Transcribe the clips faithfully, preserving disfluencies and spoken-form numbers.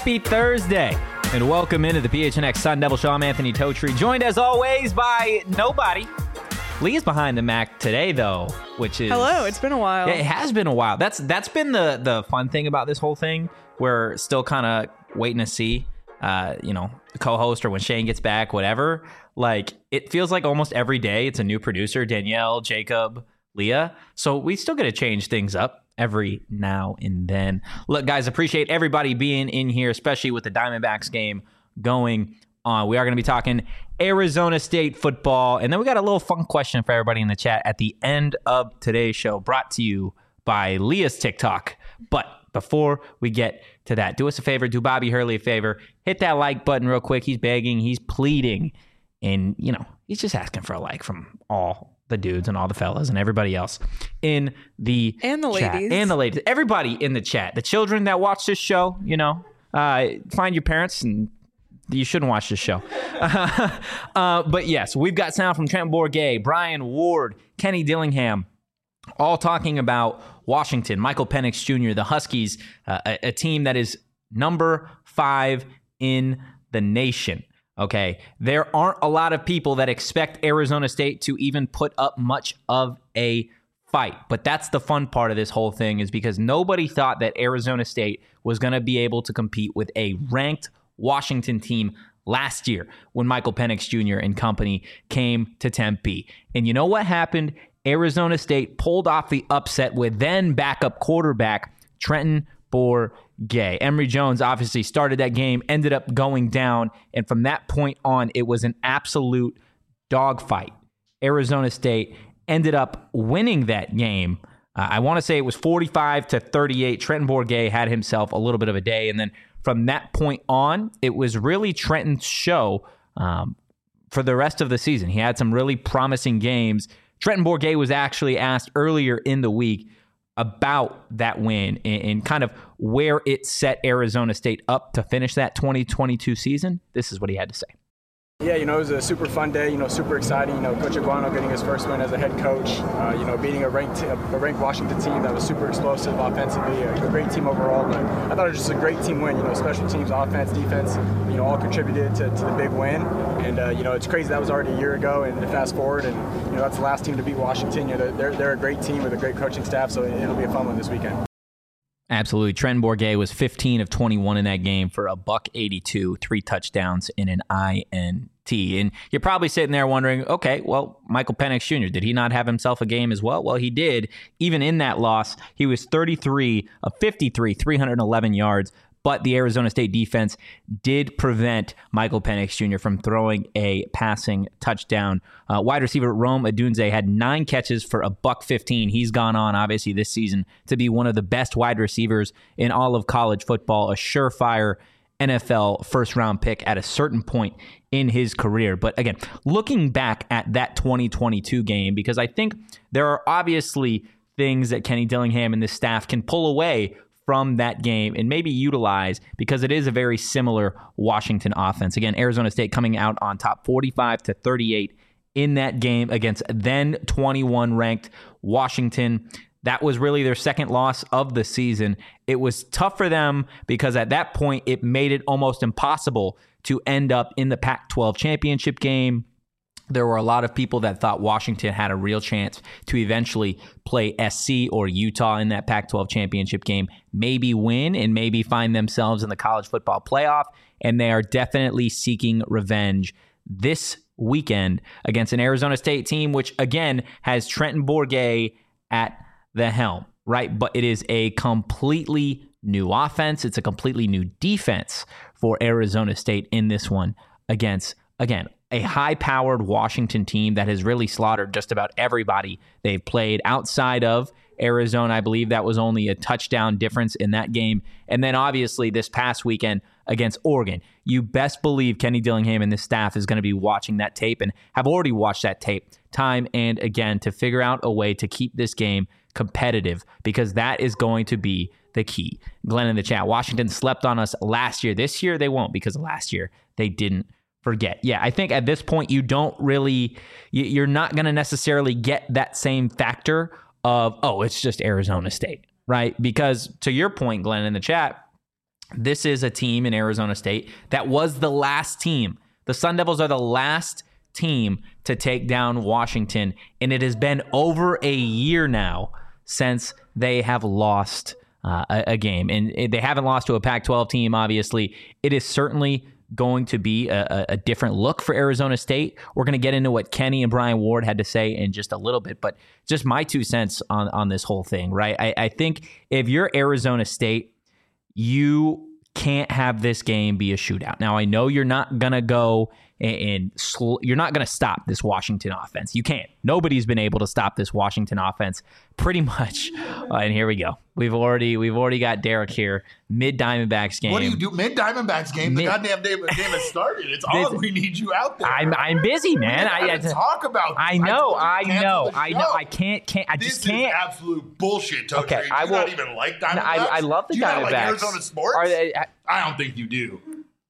Happy Thursday, and welcome into the P H N X Sun Devil Show. I'm Anthony Totri, joined as always by nobody. Lee's behind the Mac today, though, which is... Hello, it's been a while. Yeah, it has been a while. That's That's been the, the fun thing about this whole thing. We're still kind of waiting to see, uh, you know, the co-host or when Shane gets back, whatever. Like, it feels like almost every day it's a new producer, Danielle, Jacob, Leah. So we still got to change things up every now and then. Look, guys, appreciate everybody being in here, especially with the Diamondbacks game going on. We are going to be talking Arizona State football, and then we got a little fun question for everybody in the chat at the end of today's show, brought to you by Leah's TikTok. But before we get to that, do us a favor, do Bobby Hurley a favor, hit that like button real quick. He's begging, he's pleading, and, you know, he's just asking for a like from all the dudes and all the fellas and everybody else in the and the chat. ladies and the ladies, everybody in the chat, the children that watch this show, you know, uh, find your parents, and you shouldn't watch this show. uh, but yes, we've got sound from Trent Bourguet, Brian Ward, Kenny Dillingham, all talking about Washington, Michael Penix Junior, the Huskies, uh, a, a team that is number five in the nation. Okay, there aren't a lot of people that expect Arizona State to even put up much of a fight. But that's the fun part of this whole thing, is because nobody thought that Arizona State was going to be able to compete with a ranked Washington team last year when Michael Penix Junior and company came to Tempe. And you know what happened? Arizona State pulled off the upset with then backup quarterback Trenton Bourguet. Emory Jones obviously started that game, ended up going down, and from that point on, it was an absolute dogfight. Arizona State ended up winning that game. Uh, I want to say it was forty-five to thirty-eight. Trenton Bourguet had himself a little bit of a day, and then from that point on, it was really Trenton's show um, for the rest of the season. He had some really promising games. Trenton Bourguet was actually asked earlier in the week about that win and, and kind of where it set Arizona State up to finish that twenty twenty-two season. This is what he had to say. Yeah, you know, it was a super fun day, you know, super exciting. You know, Coach Aguano getting his first win as a head coach, uh, you know, beating a ranked a ranked Washington team that was super explosive offensively, a, a great team overall. But I thought it was just a great team win. You know, special teams, offense, defense, you know, all contributed to, to the big win. And, uh, you know, it's crazy that was already a year ago, and to fast forward, and, you know, that's the last team to beat Washington. You know, they're, they're a great team with a great coaching staff, so it'll be a fun one this weekend. Absolutely. Trenton Bourguet was fifteen of twenty-one in that game for a buck eighty-two, three touchdowns and an I N T. And you're probably sitting there wondering, okay, well, Michael Penix Junior, did he not have himself a game as well? Well, he did. Even in that loss, he was thirty-three of fifty-three, three hundred eleven yards. But the Arizona State defense did prevent Michael Penix Junior from throwing a passing touchdown. Uh, wide receiver Rome Odunze had nine catches for a buck fifteen. He's gone on, obviously, this season to be one of the best wide receivers in all of college football, a surefire N F L first-round pick at a certain point in his career. But again, looking back at that twenty twenty-two game, because I think there are obviously things that Kenny Dillingham and this staff can pull away from that game and maybe utilize, because it is a very similar Washington offense. Again, Arizona State coming out on top forty-five to thirty-eight in that game against then twenty-one ranked Washington. That was really their second loss of the season. It was tough for them because at that point it made it almost impossible to end up in the Pac twelve championship game. There were a lot of people that thought Washington had a real chance to eventually play S C or Utah in that Pac twelve championship game, maybe win and maybe find themselves in the college football playoff. And they are definitely seeking revenge this weekend against an Arizona State team, which again has Trenton Bourguet at the helm, right? But it is a completely new offense. It's a completely new defense for Arizona State in this one against, again, a high-powered Washington team that has really slaughtered just about everybody they've played outside of Arizona. I believe that was only a touchdown difference in that game. And then obviously this past weekend against Oregon. You best believe Kenny Dillingham and this staff is going to be watching that tape and have already watched that tape time and again to figure out a way to keep this game competitive, because that is going to be the key. Glenn in the chat, Washington slept on us last year. This year they won't, because last year they didn't forget. Yeah, I think at this point you don't really, you're not going to necessarily get that same factor of, oh, it's just Arizona State, right? Because to your point, Glenn, in the chat, this is a team in Arizona State that was the last team. The Sun Devils are the last team to take down Washington, and it has been over a year now since they have lost uh, a, a game. And they haven't lost to a Pac twelve team, obviously. It is certainly going to be a, a different look for Arizona State. We're going to get into what Kenny and Brian Ward had to say in just a little bit, but just my two cents on, on this whole thing, right? I, I think if you're Arizona State, you can't have this game be a shootout. Now, I know you're not going to go and, and sl- you're not going to stop this Washington offense. You can't. Nobody's been able to stop this Washington offense pretty much. Uh, and here we go. We've already we've already got Derek here. Mid Diamondbacks game. What do you do? Mid Diamondbacks game. Mid- the goddamn game, game has started. It's on. We need you out there. I'm I'm busy, man. I, I talk about. This. I know. I, I know. I know. I can't. Can't. I this just can't. This is absolute bullshit. Toad okay. Trade. I do will. Not even like Diamondbacks. I, I love the do you Diamondbacks. Not like Arizona sports. Are they, I, I don't think you do.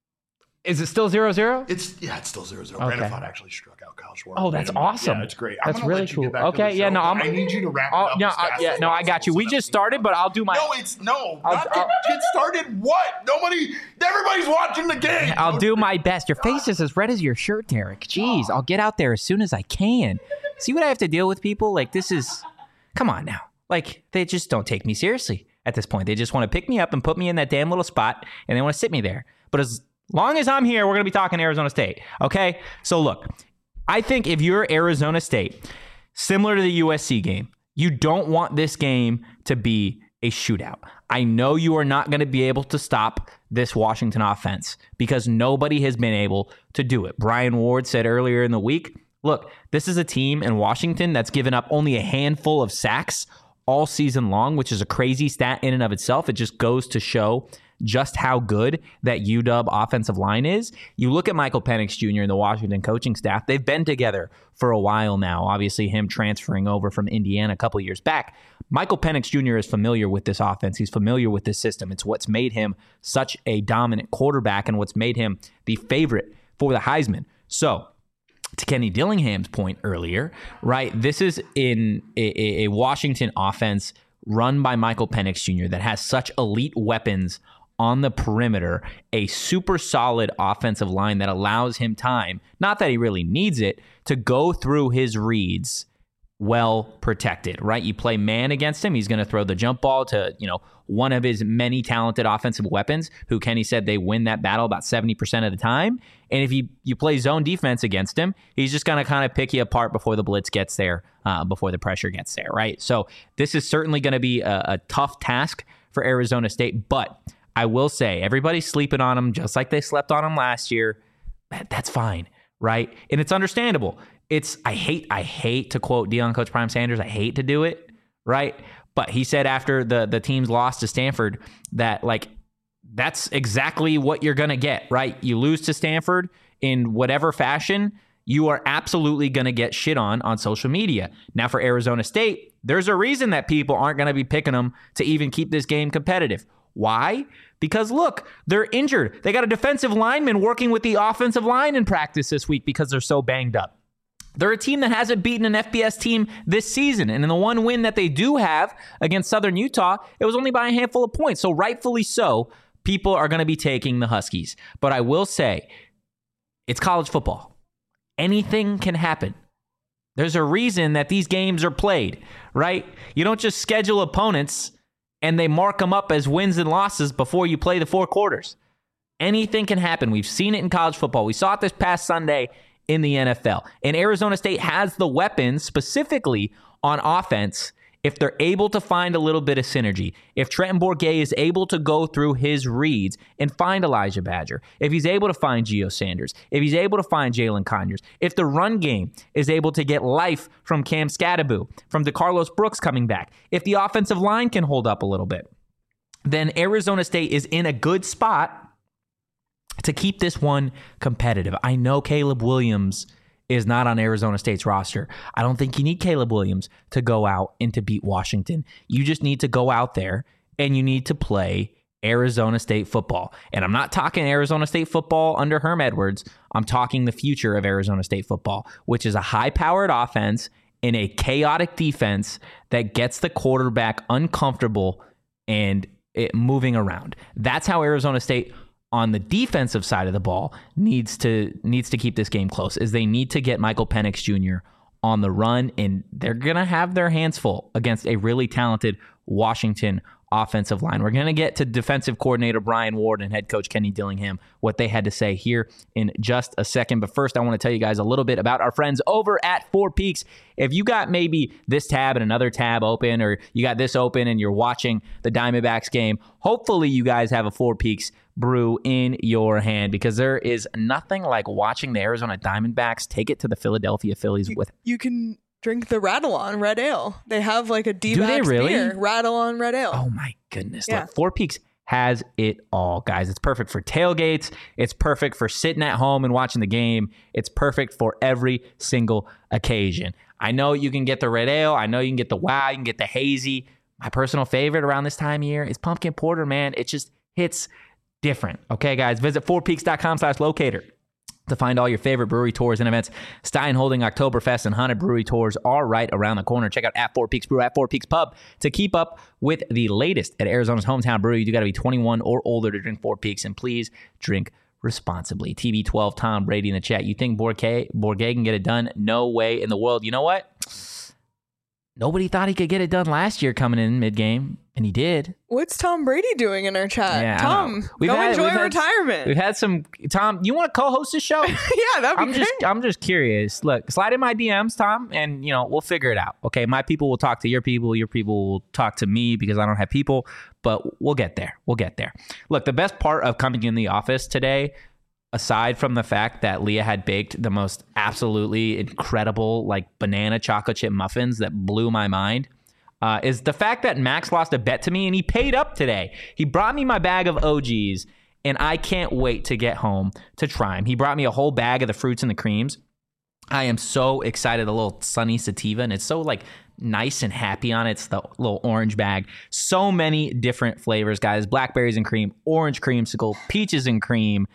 Is it still zero zero? It's yeah, it's still zero zero. Okay. Brandon Pfaadt actually struck out Kyle Schwarber. Oh, that's awesome. Yeah, it's great. That's I'm really let you cool. Get back okay, to the yeah, show, no, I'm, I need you to wrap it oh, up. No, as fast I, yeah, as no, I got you. We just started, but I'll do my. No, it's no. I'll, not I'll, it started. What? Nobody. Everybody's watching the game. I'll do my best. Your face is as red as your shirt, Derek. Jeez, I'll get out there as soon as I can. See what I have to deal with, people? Like this is. Come on now. Like they just don't take me seriously at this point. They just want to pick me up and put me in that damn little spot, and they want to sit me there. But as long as I'm here, we're going to be talking Arizona State. Okay? So look, I think if you're Arizona State, similar to the U S C game, you don't want this game to be a shootout. I know you are not going to be able to stop this Washington offense because nobody has been able to do it. Brian Ward said earlier in the week, look, this is a team in Washington that's given up only a handful of sacks all season long, which is a crazy stat in and of itself. It just goes to show just how good that U W offensive line is. You look at Michael Penix Junior and the Washington coaching staff, they've been together for a while now. Obviously, him transferring over from Indiana a couple of years back. Michael Penix Junior is familiar with this offense. He's familiar with this system. It's what's made him such a dominant quarterback and what's made him the favorite for the Heisman. So, to Kenny Dillingham's point earlier, right, this is in a, a Washington offense run by Michael Penix Junior that has such elite weapons on the perimeter, a super solid offensive line that allows him time, not that he really needs it, to go through his reads well protected, right? You play man against him, he's going to throw the jump ball to, you know, one of his many talented offensive weapons, who Kenny said they win that battle about seventy percent of the time. And if you, you play zone defense against him, he's just going to kind of pick you apart before the blitz gets there, uh, before the pressure gets there, right? So this is certainly going to be a, a tough task for Arizona State, but I will say, everybody's sleeping on them just like they slept on them last year. That's fine, right? And it's understandable. It's I hate I hate to quote Deion Coach Prime Sanders. I hate to do it, right? But he said after the the team's loss to Stanford that like that's exactly what you're gonna get, right? You lose to Stanford in whatever fashion, you are absolutely gonna get shit on on social media. Now for Arizona State, there's a reason that people aren't gonna be picking them to even keep this game competitive. Why? Because look, they're injured. They got a defensive lineman working with the offensive line in practice this week because they're so banged up. They're a team that hasn't beaten an F B S team this season. And in the one win that they do have against Southern Utah, it was only by a handful of points. So rightfully so, people are going to be taking the Huskies. But I will say, it's college football. Anything can happen. There's a reason that these games are played, right? You don't just schedule opponents and they mark them up as wins and losses before you play the four quarters. Anything can happen. We've seen it in college football. We saw it this past Sunday in the N F L. And Arizona State has the weapons specifically on offense if they're able to find a little bit of synergy. If Trenton Bourguet is able to go through his reads and find Elijah Badger, if he's able to find Gio Sanders, if he's able to find Jalen Conyers, if the run game is able to get life from Cam Scattaboo, from DeCarlos Brooks coming back, if the offensive line can hold up a little bit, then Arizona State is in a good spot to keep this one competitive. I know Caleb Williams is not on Arizona State's roster. I don't think you need Caleb Williams to go out and to beat Washington. You just need to go out there and you need to play Arizona State football. And I'm not talking Arizona State football under Herm Edwards. I'm talking the future of Arizona State football, which is a high-powered offense in a chaotic defense that gets the quarterback uncomfortable and it, moving around. That's how Arizona State on the defensive side of the ball needs to needs to keep this game close, is they need to get Michael Penix Junior on the run, and they're going to have their hands full against a really talented Washington offensive line. We're going to get to defensive coordinator Brian Ward and head coach Kenny Dillingham, what they had to say here in just a second. But first, I want to tell you guys a little bit about our friends over at Four Peaks. If you got maybe this tab and another tab open, or you got this open and you're watching the Diamondbacks game, hopefully you guys have a Four Peaks brew in your hand, because there is nothing like watching the Arizona Diamondbacks take it to the Philadelphia Phillies. You, with you can drink the Rattle On Red Ale. They have like a D-backs Do they really? beer. Rattle On Red Ale. Oh my goodness. Yeah. Look, Four Peaks has it all, guys. It's perfect for tailgates. It's perfect for sitting at home and watching the game. It's perfect for every single occasion. I know you can get the Red Ale. I know you can get the Wow. You can get the Hazy. My personal favorite around this time of year is Pumpkin Porter, man. It just hits different. Okay, guys, visit four peaks dot com slash locator to find all your favorite brewery tours and events. Stein holding Oktoberfest and Haunted Brewery tours are right around the corner. Check out at Four Peaks Brew, at Four Peaks Pub to keep up with the latest at Arizona's hometown brewery. You got to be twenty-one or older to drink Four Peaks, and please drink responsibly. T B twelve, Tom Brady in the chat. You think Bourget, Bourget can get it done? No way in the world. You know what? Nobody thought he could get it done last year coming in mid-game, and he did. What's Tom Brady doing in our chat? Yeah, Tom, we've go had, enjoy we've had, retirement. We've had some... Tom, you want to co-host this show? Yeah, that'd be I'm great. just, I'm just curious. Look, slide in my D Ms, Tom, and, you know, we'll figure it out. Okay, my people will talk to your people. Your people will talk to me because I don't have people, but we'll get there. We'll get there. Look, the best part of coming in the office today, aside from the fact that Leah had baked the most absolutely incredible, like, banana chocolate chip muffins that blew my mind, Uh, is the fact that Max lost a bet to me, and he paid up today. He brought me my bag of O Gs, and I can't wait to get home to try them. He brought me a whole bag of the fruits and the creams. I am so excited. A little sunny sativa, and it's so like nice and happy on it. It's the little orange bag. So many different flavors, guys. Blackberries and cream, orange creamsicle, peaches and cream.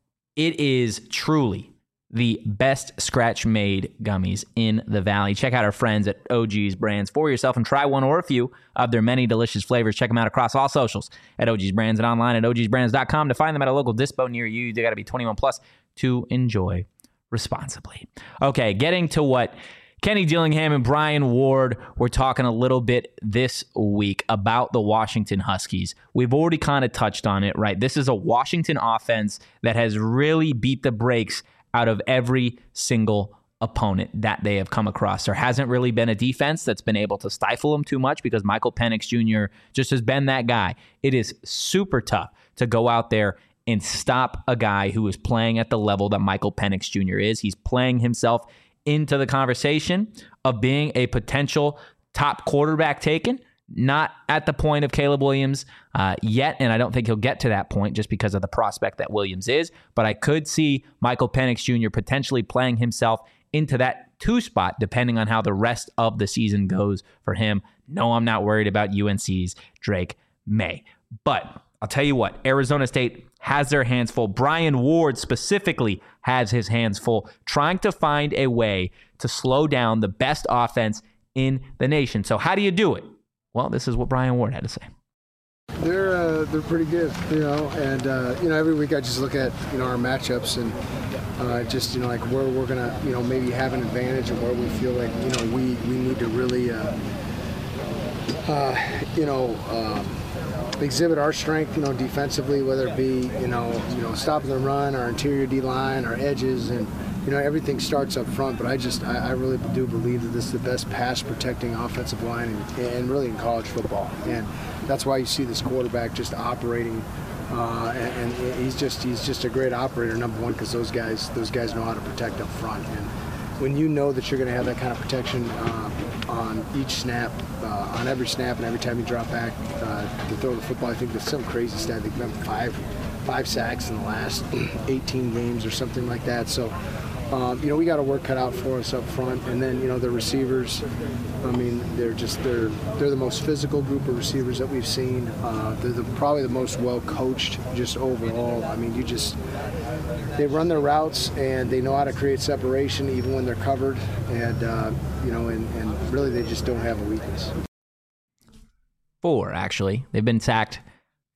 It is truly the best scratch-made gummies in the Valley. Check out our friends at O G's Brands for yourself and try one or a few of their many delicious flavors. Check them out across all socials at O G's Brands and online at O Gs brands dot com to find them at a local dispo near you. You got to be twenty-one plus to enjoy responsibly. Okay, getting to what Kenny Dillingham and Brian Ward were talking a little bit this week about the Washington Huskies. We've already kind of touched on it, right? This is a Washington offense that has really beat the brakes out of every single opponent that they have come across. There hasn't really been a defense that's been able to stifle them too much because Michael Penix Junior just has been that guy. It is super tough to go out there and stop a guy who is playing at the level that Michael Penix Junior is. He's playing himself into the conversation of being a potential top quarterback taken. Not at the point of Caleb Williams uh, yet, and I don't think he'll get to that point just because of the prospect that Williams is, but I could see Michael Penix Junior potentially playing himself into that two spot depending on how the rest of the season goes for him. No, I'm not worried about U N C's Drake May. But I'll tell you what, Arizona State has their hands full. Brian Ward specifically has his hands full, trying to find a way to slow down the best offense in the nation. So how do you do it? Well, this is what Brian Ward had to say. They're uh, they're pretty good, you know, and uh, you know every week I just look at you know our matchups and uh, just you know like where we're gonna you know maybe have an advantage and where we feel like you know we we need to really uh, uh, you know um, exhibit our strength, you know, defensively, whether it be you know you know stopping the run, our interior D line, our edges, and you know everything starts up front. But I just I, I really do believe that this is the best pass protecting offensive line and, and really in college football, and that's why you see this quarterback just operating, uh, and, and he's just he's just a great operator. Number one, because those guys those guys know how to protect up front, and when you know that you're going to have that kind of protection uh, on each snap, uh, on every snap, and every time you drop back uh, to throw the football, I think there's some crazy stat. They've been five five sacks in the last eighteen games or something like that. So. Um, you know, we got a work cut out for us up front, and then you know the receivers. I mean, they're just they're they're the most physical group of receivers that we've seen. Uh, they're the, probably the most well coached, just overall. I mean, you just they run their routes and they know how to create separation even when they're covered, and uh, you know, and, and really they just don't have a weakness. Four, actually, they've been sacked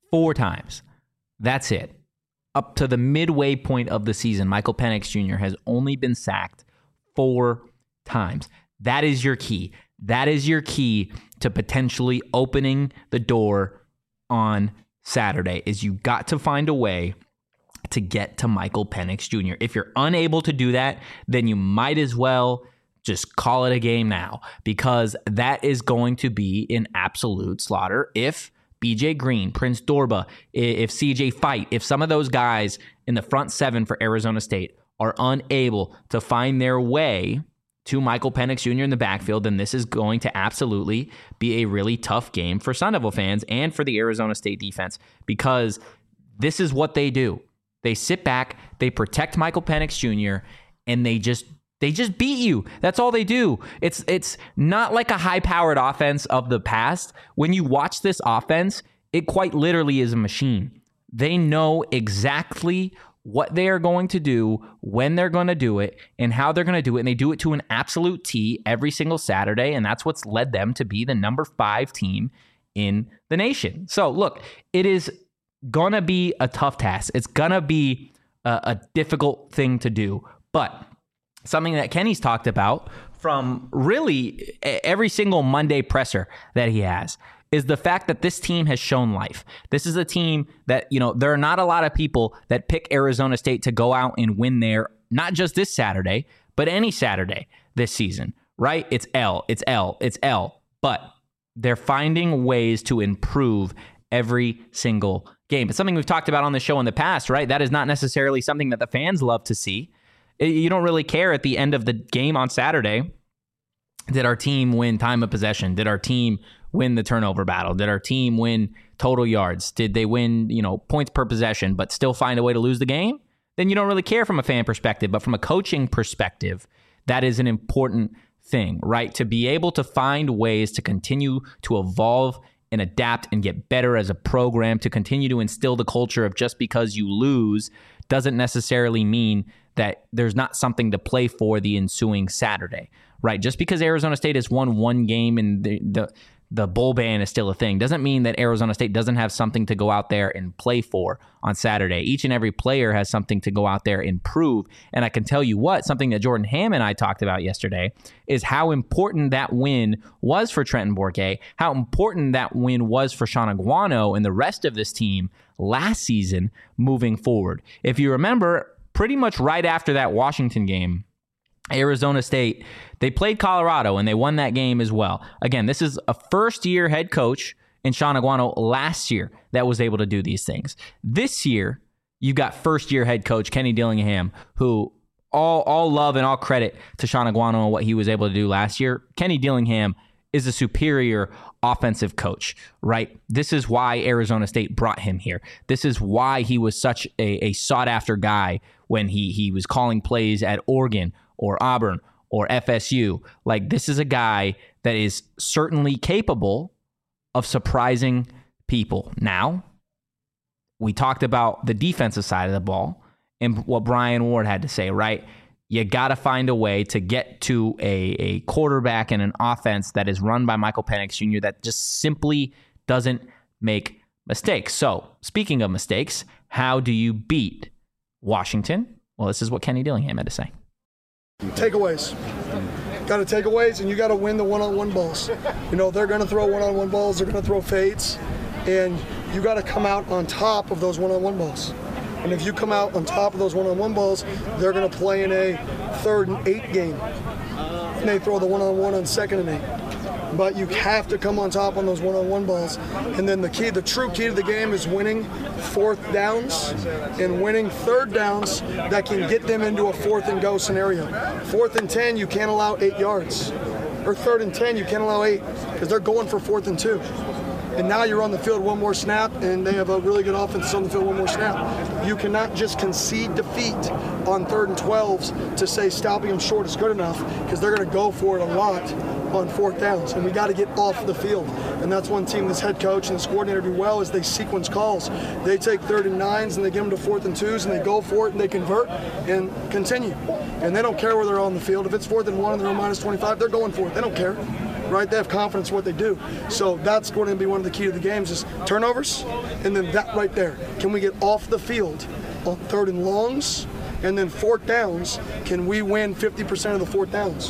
Four times. That's it. Up to the midway point of the season, Michael Penix Junior has only been sacked four times. That is your key. That is your key to potentially opening the door on Saturday, is you got to find a way to get to Michael Penix Junior If you're unable to do that, then you might as well just call it a game now, because that is going to be an absolute slaughter if B J Green, Prince Dorba, if C J Fight, if some of those guys in the front seven for Arizona State are unable to find their way to Michael Penix Junior in the backfield, then this is going to absolutely be a really tough game for Sun Devil fans and for the Arizona State defense, because this is what they do. They sit back, they protect Michael Penix Junior, and they just they just beat you. That's all they do. It's it's not like a high-powered offense of the past. When you watch this offense, it quite literally is a machine. They know exactly what they are going to do, when they're going to do it, and how they're going to do it. And they do it to an absolute T every single Saturday. And that's what's led them to be the number five team in the nation. So look, it is going to be a tough task. It's going to be a, a difficult thing to do. But something that Kenny's talked about from really every single Monday presser that he has is the fact that this team has shown life. This is a team that, you know, there are not a lot of people that pick Arizona State to go out and win there, not just this Saturday, but any Saturday this season, right? It's L, it's L, it's L. But they're finding ways to improve every single game. It's something we've talked about on the show in the past, right? That is not necessarily something that the fans love to see. You don't really care at the end of the game on Saturday. Did our team win time of possession? Did our team win the turnover battle? Did our team win total yards? Did they win, you know, points per possession, but still find a way to lose the game? Then you don't really care from a fan perspective. But from a coaching perspective, that is an important thing, right? To be able to find ways to continue to evolve and adapt and get better as a program, to continue to instill the culture of just because you lose doesn't necessarily mean that there's not something to play for the ensuing Saturday, right? Just because Arizona State has won one game and the, the the bowl ban is still a thing doesn't mean that Arizona State doesn't have something to go out there and play for on Saturday. Each and every player has something to go out there and prove. And I can tell you what, something that Jordan Hamm and I talked about yesterday is how important that win was for Trenton Bourguet, how important that win was for Sean Aguano and the rest of this team last season moving forward. If you remember, pretty much right after that Washington game, Arizona State, they played Colorado and they won that game as well. Again, this is a first-year head coach in Sean Aguano last year that was able to do these things. This year, you got first-year head coach Kenny Dillingham, who all all love and all credit to Sean Aguano and what he was able to do last year. Kenny Dillingham is a superior offensive coach, right? This is why Arizona State brought him here. This is why he was such a, a sought-after guy when he he was calling plays at Oregon or Auburn or F S U. Like, this is a guy that is certainly capable of surprising people. Now, we talked about the defensive side of the ball and what Brian Ward had to say, right? You got to find a way to get to a, a quarterback and an offense that is run by Michael Penix Junior that just simply doesn't make mistakes. So, speaking of mistakes, how do you beat Washington? Well, this is what Kenny Dillingham had to say. Takeaways. Got to takeaways, and you got to win the one-on-one balls. You know, they're going to throw one-on-one balls. They're going to throw fades, and you got to come out on top of those one-on-one balls. And if you come out on top of those one-on-one balls, they're going to play in a third and eight game. And they throw the one-on-one on second and eight. But you have to come on top on those one-on-one balls. And then the key, the true key to the game is winning fourth downs and winning third downs that can get them into a fourth and go scenario. Fourth and ten, you can't allow eight yards. Or third and ten, you can't allow eight because they're going for fourth and two. And now you're on the field one more snap, and they have a really good offense on the field one more snap. You cannot just concede defeat on third and twelves to say stopping them short is good enough, because they're going to go for it a lot on fourth downs, and we got to get off the field. And that's one team this head coach and this coordinator do well, is they sequence calls. They take third and nines and they get them to fourth and twos, and they go for it and they convert and continue. And they don't care where they're on the field. If it's fourth and one and they're on minus twenty-five, they're going for it. They don't care. right? They have confidence in what they do. So that's going to be one of the key to the games is turnovers, and then that right there. Can we get off the field on third and longs, and then fourth downs? Can we win fifty percent of the fourth downs?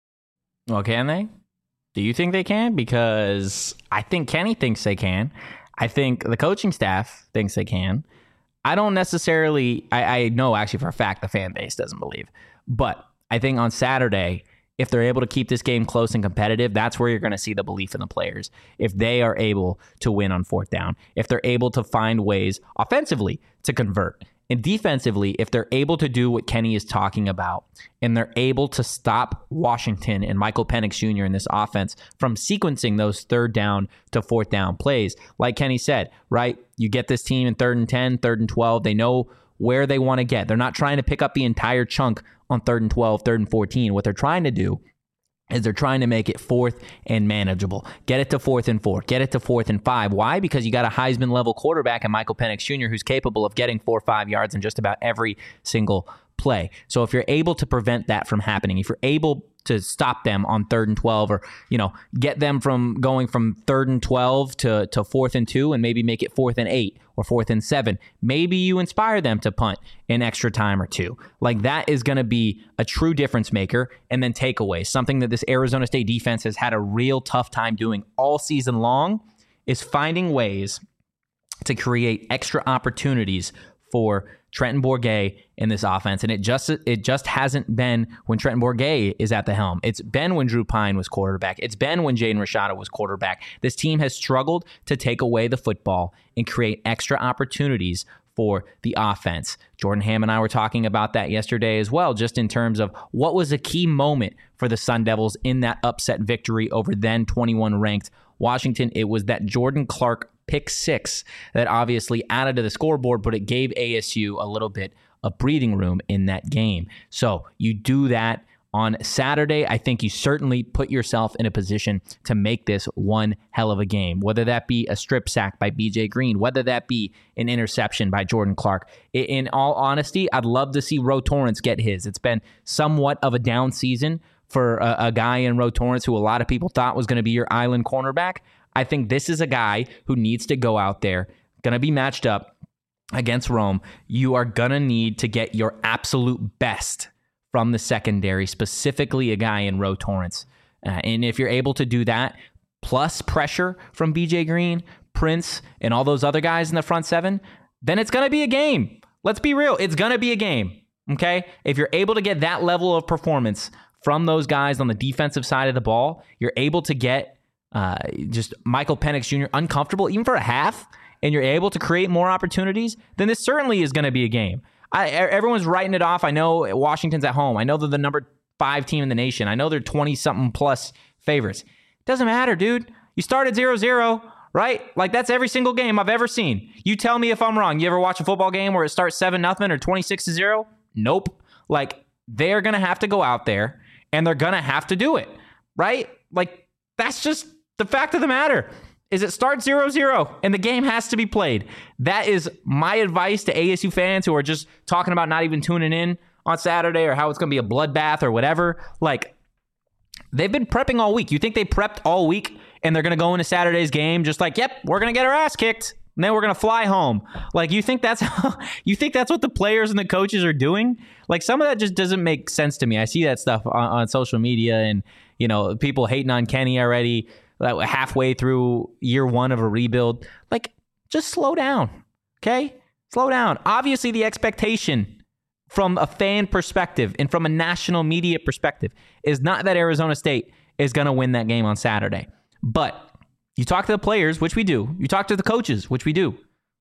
Well, can they? Do you think they can? Because I think Kenny thinks they can. I think the coaching staff thinks they can. I don't necessarily, I, I know actually for a fact the fan base doesn't believe. But I think on Saturday, if they're able to keep this game close and competitive, that's where you're going to see the belief in the players. If they are able to win on fourth down, if they're able to find ways offensively to convert, and defensively, if they're able to do what Kenny is talking about, and they're able to stop Washington and Michael Penix Junior in this offense from sequencing those third down to fourth down plays, like Kenny said, right? You get this team in third and ten, third and twelve. They know where they want to get. They're not trying to pick up the entire chunk on third and twelve, third and fourteen. What they're trying to do is they're trying to make it fourth and manageable. Get it to fourth and four. Get it to fourth and five. Why? Because you got a Heisman-level quarterback in Michael Penix Junior who's capable of getting four or five yards in just about every single play. So if you're able to prevent that from happening, if you're able to stop them on third and twelve, or, you know, get them from going from third and twelve to, to fourth and two, and maybe make it fourth and eight or fourth and seven. Maybe you inspire them to punt an extra time or two. Like, that is going to be a true difference maker. And then takeaways, something that this Arizona State defense has had a real tough time doing all season long, is finding ways to create extra opportunities for Trenton Bourguet in this offense. And it just it just hasn't been when Trenton Bourguet is at the helm. It's been when Drew Pine was quarterback. It's been when Jaden Rashada was quarterback. This team has struggled to take away the football and create extra opportunities for the offense. Jordan Ham and I were talking about that yesterday as well, just in terms of what was a key moment for the Sun Devils in that upset victory over then twenty-one ranked Washington. It was that Jordan Clark pick six that obviously added to the scoreboard, but it gave A S U a little bit of breathing room in that game. So you do that on Saturday. I think you certainly put yourself in a position to make this one hell of a game, whether that be a strip sack by B J Green, whether that be an interception by Jordan Clark. In all honesty, I'd love to see Ro Torrence get his. It's been somewhat of a down season for a, a guy in Ro Torrence who a lot of people thought was going to be your island cornerback. I think this is a guy who needs to go out there, going to be matched up against Rome. You are going to need to get your absolute best from the secondary, specifically a guy in Ro Torrence. Uh, and if you're able to do that, plus pressure from B J Green, Prince, and all those other guys in the front seven, then it's going to be a game. Let's be real. It's going to be a game, okay? If you're able to get that level of performance from those guys on the defensive side of the ball, you're able to get Uh, just Michael Penix Junior uncomfortable, even for a half, and you're able to create more opportunities, then this certainly is going to be a game. I, everyone's writing it off. I know Washington's at home. I know they're the number five team in the nation. I know they're twenty-something plus favorites. Doesn't matter, dude. You start at zero zero, right? Like, that's every single game I've ever seen. You tell me if I'm wrong. You ever watch a football game where it starts seven nothing or twenty-six to zero? Nope. Like, they're going to have to go out there, and they're going to have to do it, right? Like, that's just the fact of the matter. Is it starts zero zero and the game has to be played. That is my advice to A S U fans who are just talking about not even tuning in on Saturday, or how it's going to be a bloodbath or whatever. Like, they've been prepping all week. You think they prepped all week and they're going to go into Saturday's game just like, yep, we're going to get our ass kicked, and then we're going to fly home? Like, you think that's how, you think that's what the players and the coaches are doing? Like, some of that just doesn't make sense to me. I see that stuff on, on social media, and, you know, people hating on Kenny already, like, halfway through year one of a rebuild. Like, just slow down, okay? Slow down. Obviously, the expectation from a fan perspective and from a national media perspective is not that Arizona State is going to win that game on Saturday. But you talk to the players, which we do. You talk to the coaches, which we do.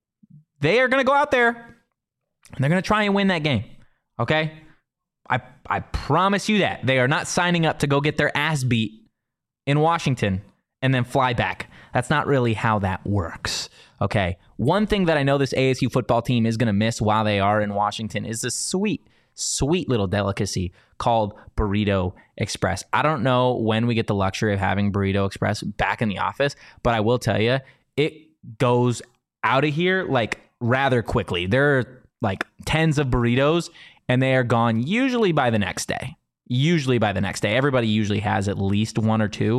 They are going to go out there, and they're going to try and win that game, okay? I I promise you that. They are not signing up to go get their ass beat in Washington and then fly back. That's not really how that works, okay? One thing that I know this A S U football team is going to miss while they are in Washington is this sweet, sweet little delicacy called Burrito Express. I don't know when we get the luxury of having Burrito Express back in the office, but I will tell you, it goes out of here like rather quickly. There are like tens of burritos, and they are gone usually by the next day. Usually by the next day. Everybody usually has at least one or two.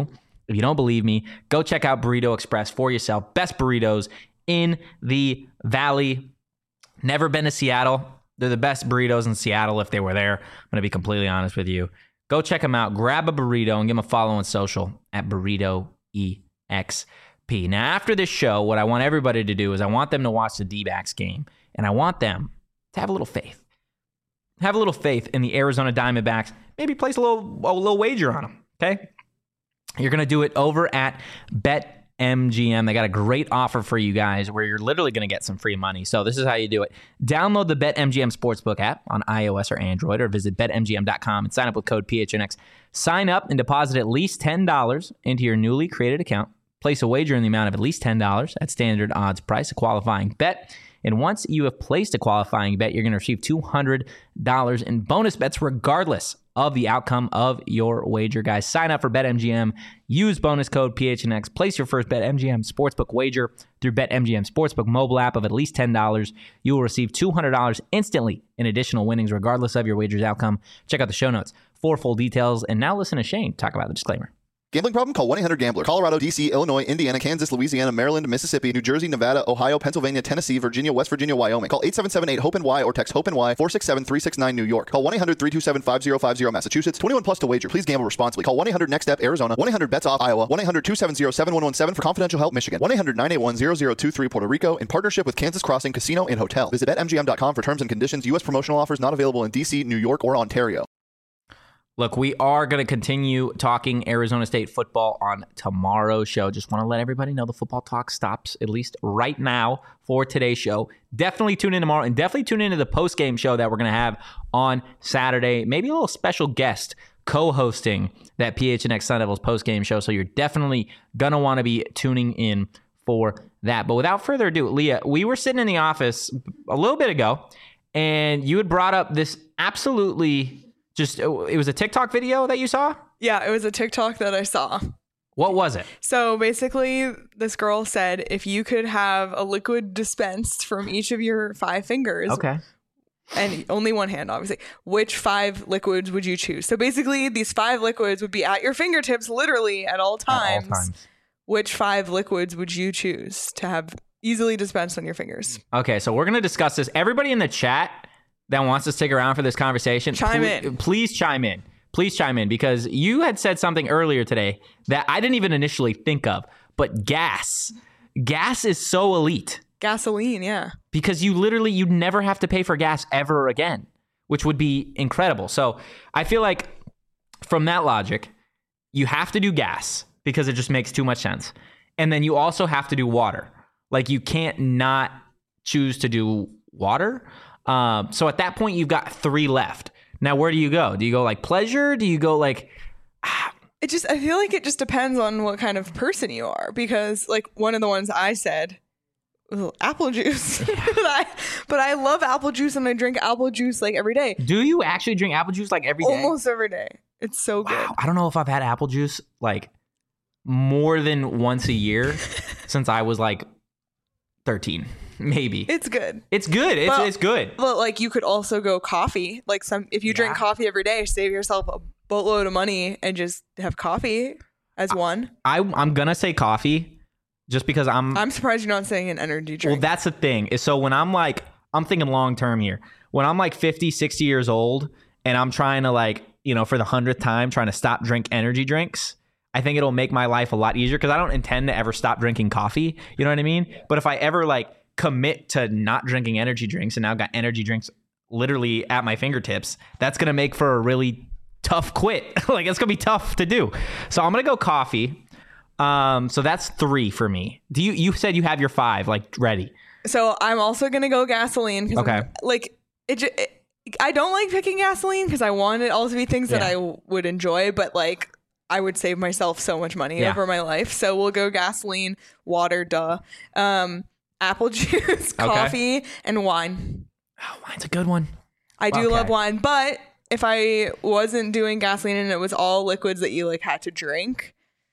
If you don't believe me, go check out Burrito Express for yourself. Best burritos in the Valley. Never been to Seattle. They're the best burritos in Seattle if they were there. I'm going to be completely honest with you. Go check them out. Grab a burrito and give them a follow on social at Burrito E X P. Now, after this show, what I want everybody to do is I want them to watch the D-backs game, and I want them to have a little faith. Have a little faith in the Arizona Diamondbacks. Maybe place a little, a little wager on them, okay? You're going to do it over at BetMGM. They got a great offer for you guys where you're literally going to get some free money. So this is how you do it. Download the BetMGM Sportsbook app on iOS or Android, or visit bet M G M dot com and sign up with code P H N X. Sign up and deposit at least ten dollars into your newly created account. Place a wager in the amount of at least ten dollars at standard odds price, a qualifying bet. And once you have placed a qualifying bet, you're going to receive two hundred dollars in bonus bets regardless of the outcome of your wager, guys. Sign up for BetMGM. Use bonus code P H N X. Place your first BetMGM Sportsbook wager through BetMGM Sportsbook mobile app of at least ten dollars. You will receive two hundred dollars instantly in additional winnings regardless of your wager's outcome. Check out the show notes for full details. And now listen to Shane talk about the disclaimer. Gambling problem? Call one eight hundred gambler. Colorado, D C, Illinois, Indiana, Kansas, Louisiana, Maryland, Mississippi, New Jersey, Nevada, Ohio, Pennsylvania, Tennessee, Virginia, West Virginia, Wyoming. Call eight seven seven eight hope N Y or text HOPE-NY four six seven three six nine New York. Call one eight hundred three two seven five zero five zero Massachusetts. twenty-one plus to wager. Please gamble responsibly. Call one eight hundred next step Arizona. one eight hundred bets off Iowa. one eight hundred two seven zero seven one one seven for confidential help Michigan. one eight hundred nine eight one zero zero two three Puerto Rico in partnership with Kansas Crossing Casino and Hotel. Visit bet M G M dot com for terms and conditions. U S promotional offers not available in D C, New York, or Ontario. Look, we are going to continue talking Arizona State football on tomorrow's show. Just want to let everybody know the football talk stops at least right now for today's show. Definitely tune in tomorrow, and definitely tune into the post-game show that we're going to have on Saturday. Maybe a little special guest co-hosting that P H N X Sun Devils post-game show. So you're definitely going to want to be tuning in for that. But without further ado, Leah, we were sitting in the office a little bit ago, and you had brought up this absolutely... Just, it was a TikTok video that you saw? Yeah, it was a TikTok that I saw. What was it? So basically, this girl said if you could have a liquid dispensed from each of your five fingers. Okay. And only one hand, obviously. Which five liquids would you choose? So basically, these five liquids would be at your fingertips literally at all times. At all times. Which five liquids would you choose to have easily dispensed on your fingers? Okay, so we're going to discuss this. Everybody in the chat that wants to stick around for this conversation, chime please, in. Please chime in. Please chime in, because you had said something earlier today that I didn't even initially think of, but gas. Gas is so elite. Gasoline, yeah. Because you literally, you'd never have to pay for gas ever again, which would be incredible. So I feel like from that logic, you have to do gas because it just makes too much sense. And then you also have to do water. Like, you can't not choose to do water. Um, so at that point, you've got three left. Now, where do you go? Do you go like pleasure? Do you go like... Ah. It just, I feel like it just depends on what kind of person you are, because like one of the ones I said, well, apple juice. Yeah. but, I, but I love apple juice, and I drink apple juice like every day. Do you actually drink apple juice like every day? Almost every day. It's so wow. good. I don't know if I've had apple juice like more than once a year since I was like thirteen. Maybe. It's good. It's good. It's but, it's good. But like, you could also go coffee. Like, some if you drink yeah. coffee every day, save yourself a boatload of money and just have coffee as one. I I'm gonna say coffee just because I'm I'm surprised you're not saying an energy drink. Well, that's the thing. Is so when I'm like, I'm thinking long term here. When I'm like fifty, sixty years old and I'm trying to, like, you know, for the hundredth time trying to stop drink energy drinks, I think it'll make my life a lot easier, because I don't intend to ever stop drinking coffee. You know what I mean? But if I ever like commit to not drinking energy drinks and now got energy drinks literally at my fingertips, that's going to make for a really tough quit. Like, it's going to be tough to do. So I'm going to go coffee. Um, so that's three for me. Do you, you said you have your five, like, ready. So I'm also going to go gasoline. Okay. I'm, like, it, it, I don't like picking gasoline because I want it all to be things yeah. that I w- would enjoy, but like, I would save myself so much money yeah. over my life. So we'll go gasoline, water, duh. Um, apple juice, coffee, okay. and wine. Oh, wine's a good one. I do okay. love wine, but if I wasn't doing gasoline and it was all liquids that you like had to drink,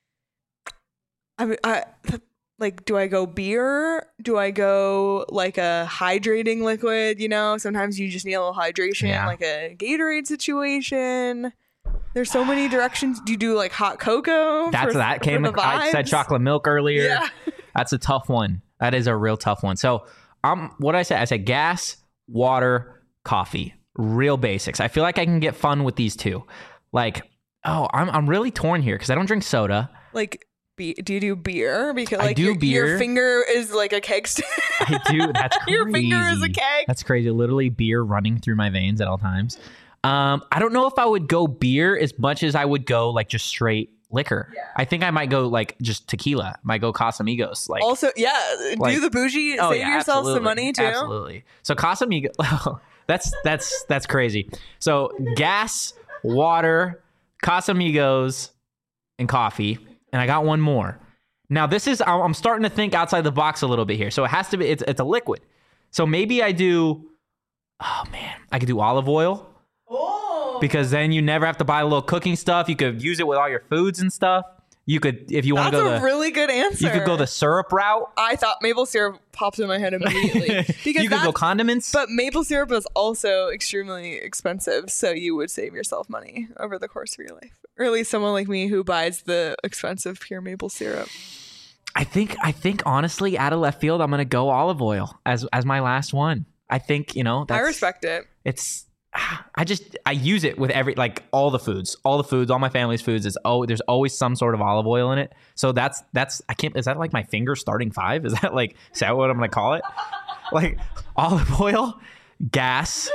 I, I like, do I go beer? Do I go like a hydrating liquid? You know, sometimes you just need a little hydration, yeah. like a Gatorade situation. There's so many directions. Do you do like hot cocoa? That's for, that came. I said chocolate milk earlier. Yeah. That's a tough one. That is a real tough one. So um, what did I say? I said gas, water, coffee. Real basics. I feel like I can get fun with these two. Like, oh, I'm I'm really torn here because I don't drink soda. Like, be, do you do beer? Because like I do your, beer. your finger is like a keg stand. I do. That's crazy. Your finger is a keg. That's crazy. Literally beer running through my veins at all times. Um, I don't know if I would go beer as much as I would go like just straight liquor. Yeah. I think I might go like just tequila. Might go Casamigos. Like also, yeah, like, do the bougie. Oh, save yeah, yourself absolutely. some money too. Absolutely. So Casamigos. That's that's that's crazy. So gas, water, Casamigos, and coffee. And I got one more. Now this is I'm starting to think outside the box a little bit here. So it has to be it's it's a liquid. So maybe I do. Oh man, I could do olive oil. Oh. Because then you never have to buy a little cooking stuff. You could use it with all your foods and stuff. You could, if you want to go That's a the, really good answer. You could go the syrup route. I thought maple syrup popped in my head immediately. Because you could go condiments. But maple syrup is also extremely expensive, so you would save yourself money over the course of your life. Or at least someone like me who buys the expensive pure maple syrup. I think, I think honestly, out of left field, I'm going to go olive oil as as my last one. I think, you know, that's, I respect it. It's, I just, I use it with every, like all the foods, all the foods, all my family's foods is, oh, there's always some sort of olive oil in it. So that's, that's, I can't, is that like my finger starting five? Is that like, is that what I'm going to call it? Like olive oil, gas,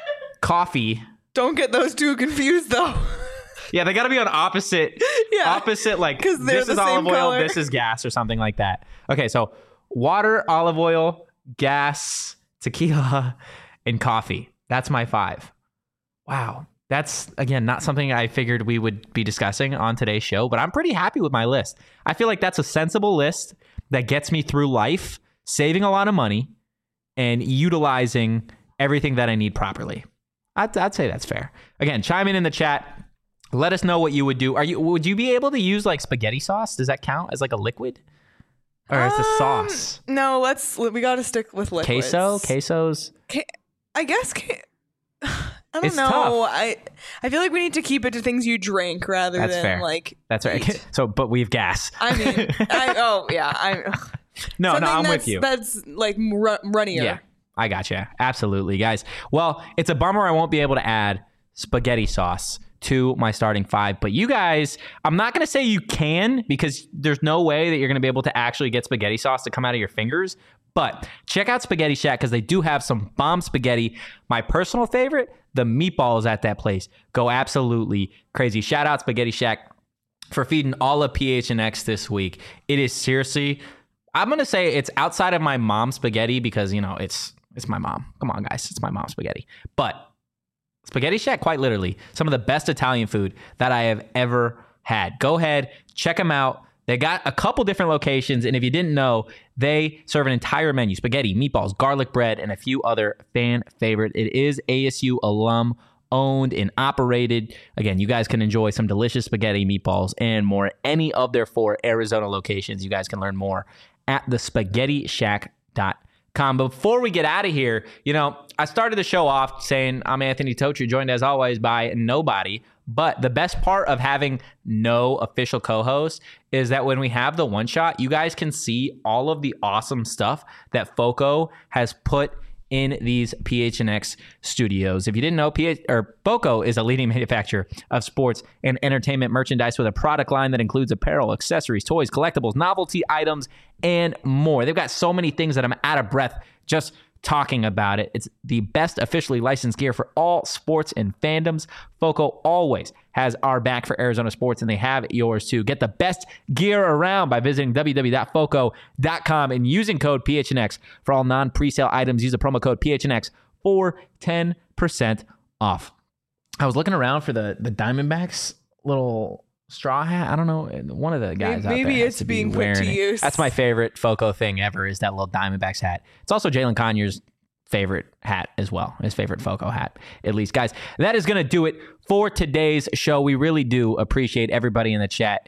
coffee. Don't get those two confused though. Yeah, they got to be on opposite, yeah. opposite, like this is olive oil, color. This is gas or something like that. Okay, so water, olive oil, gas, tequila, and coffee. That's my five. Wow. That's, again, not something I figured we would be discussing on today's show, but I'm pretty happy with my list. I feel like that's a sensible list that gets me through life, saving a lot of money, and utilizing everything that I need properly. I'd, I'd say that's fair. Again, chime in in the chat. Let us know what you would do. Are you? Would you be able to use like spaghetti sauce? Does that count as like a liquid? Or um, it's a sauce? No, let's, we got to stick with liquids. Queso? Quesos? Ke- I guess... Ke- I don't it's know. Tough. I I feel like we need to keep it to things you drink rather That's than fair. like. That's right. Eat. So, but we have gas. I mean, I, oh yeah, I. No, no, I'm with you. That's like r- runnier. Yeah, I gotcha. Absolutely, guys. Well, it's a bummer I won't be able to add spaghetti sauce to my starting five, but you guys, I'm not going to say you can because there's no way that you're going to be able to actually get spaghetti sauce to come out of your fingers. But check out Spaghetti Shack because they do have some bomb spaghetti. My personal favorite, the meatballs at that place go absolutely crazy. Shout out Spaghetti Shack for feeding all of P H N X this week. It is seriously, I'm going to say it's outside of my mom's spaghetti because, you know, it's it's my mom. Come on, guys. It's my mom's spaghetti. But Spaghetti Shack, quite literally, some of the best Italian food that I have ever had. Go ahead, check them out. They got a couple different locations, and if you didn't know, they serve an entire menu: spaghetti, meatballs, garlic bread, and a few other fan favorite. It is A S U alum owned and operated. Again, you guys can enjoy some delicious spaghetti, meatballs, and more at any of their four Arizona locations. You guys can learn more at the spaghetti shack dot com. Before we get out of here, you know, I started the show off saying I'm Anthony Totri, joined as always by nobody. But the best part of having no official co-host is that when we have the one shot, you guys can see all of the awesome stuff that Foco has put in these P H N X studios. If you didn't know, P H or Foco is a leading manufacturer of sports and entertainment merchandise with a product line that includes apparel, accessories, toys, collectibles, novelty items, and more. They've got so many things that I'm out of breath just talking about it. It's the best officially licensed gear for all sports and fandoms. Foco always has our back for Arizona sports, and they have yours too. Get the best gear around by visiting w w w dot foco dot com and using code P H N X for all non-presale items. Use the promo code P H N X for ten percent off. I was looking around for the, the Diamondbacks little straw hat. I don't know. One of the guys maybe, out there maybe it's being be put to it. use. That's my favorite Foco thing ever is that little Diamondbacks hat. It's also Jalen Conyers' favorite hat as well. His favorite Foco hat, at least. Guys, that is going to do it for today's show. We really do appreciate everybody in the chat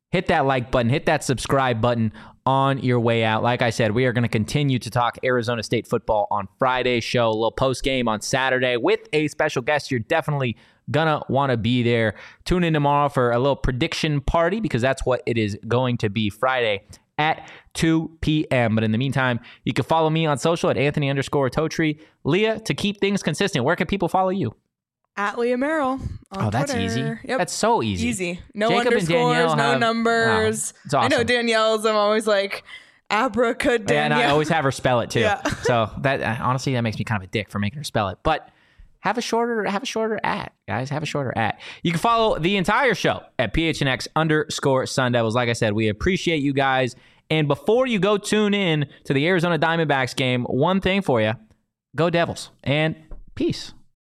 hit that like button, hit that subscribe button on your way out. Like I said, we are going to continue to talk Arizona State football on Friday's show, a little post game on Saturday with a special guest. You're definitely gonna want to be there. Tune in tomorrow for a little prediction party, because that's what it is going to be Friday at two p.m. But in the meantime, you can follow me on social at Anthony underscore Totri. Leah, to keep things consistent, where can people follow you? At Leah Merrill on Oh, that's Twitter. easy. Yep. That's so easy. Easy. No Jacob and underscores, Danielle no have- numbers. Wow, it's awesome. I know Danielle's, I'm always like, abracadabra. And I always have her spell it too. Yeah. So that honestly, that makes me kind of a dick for making her spell it. But have a shorter, have a shorter at, guys. Have a shorter at. You can follow the entire show at P H N X underscore Sun Devils. Like I said, we appreciate you guys. And before you go tune in to the Arizona Diamondbacks game, one thing for you: go Devils and peace.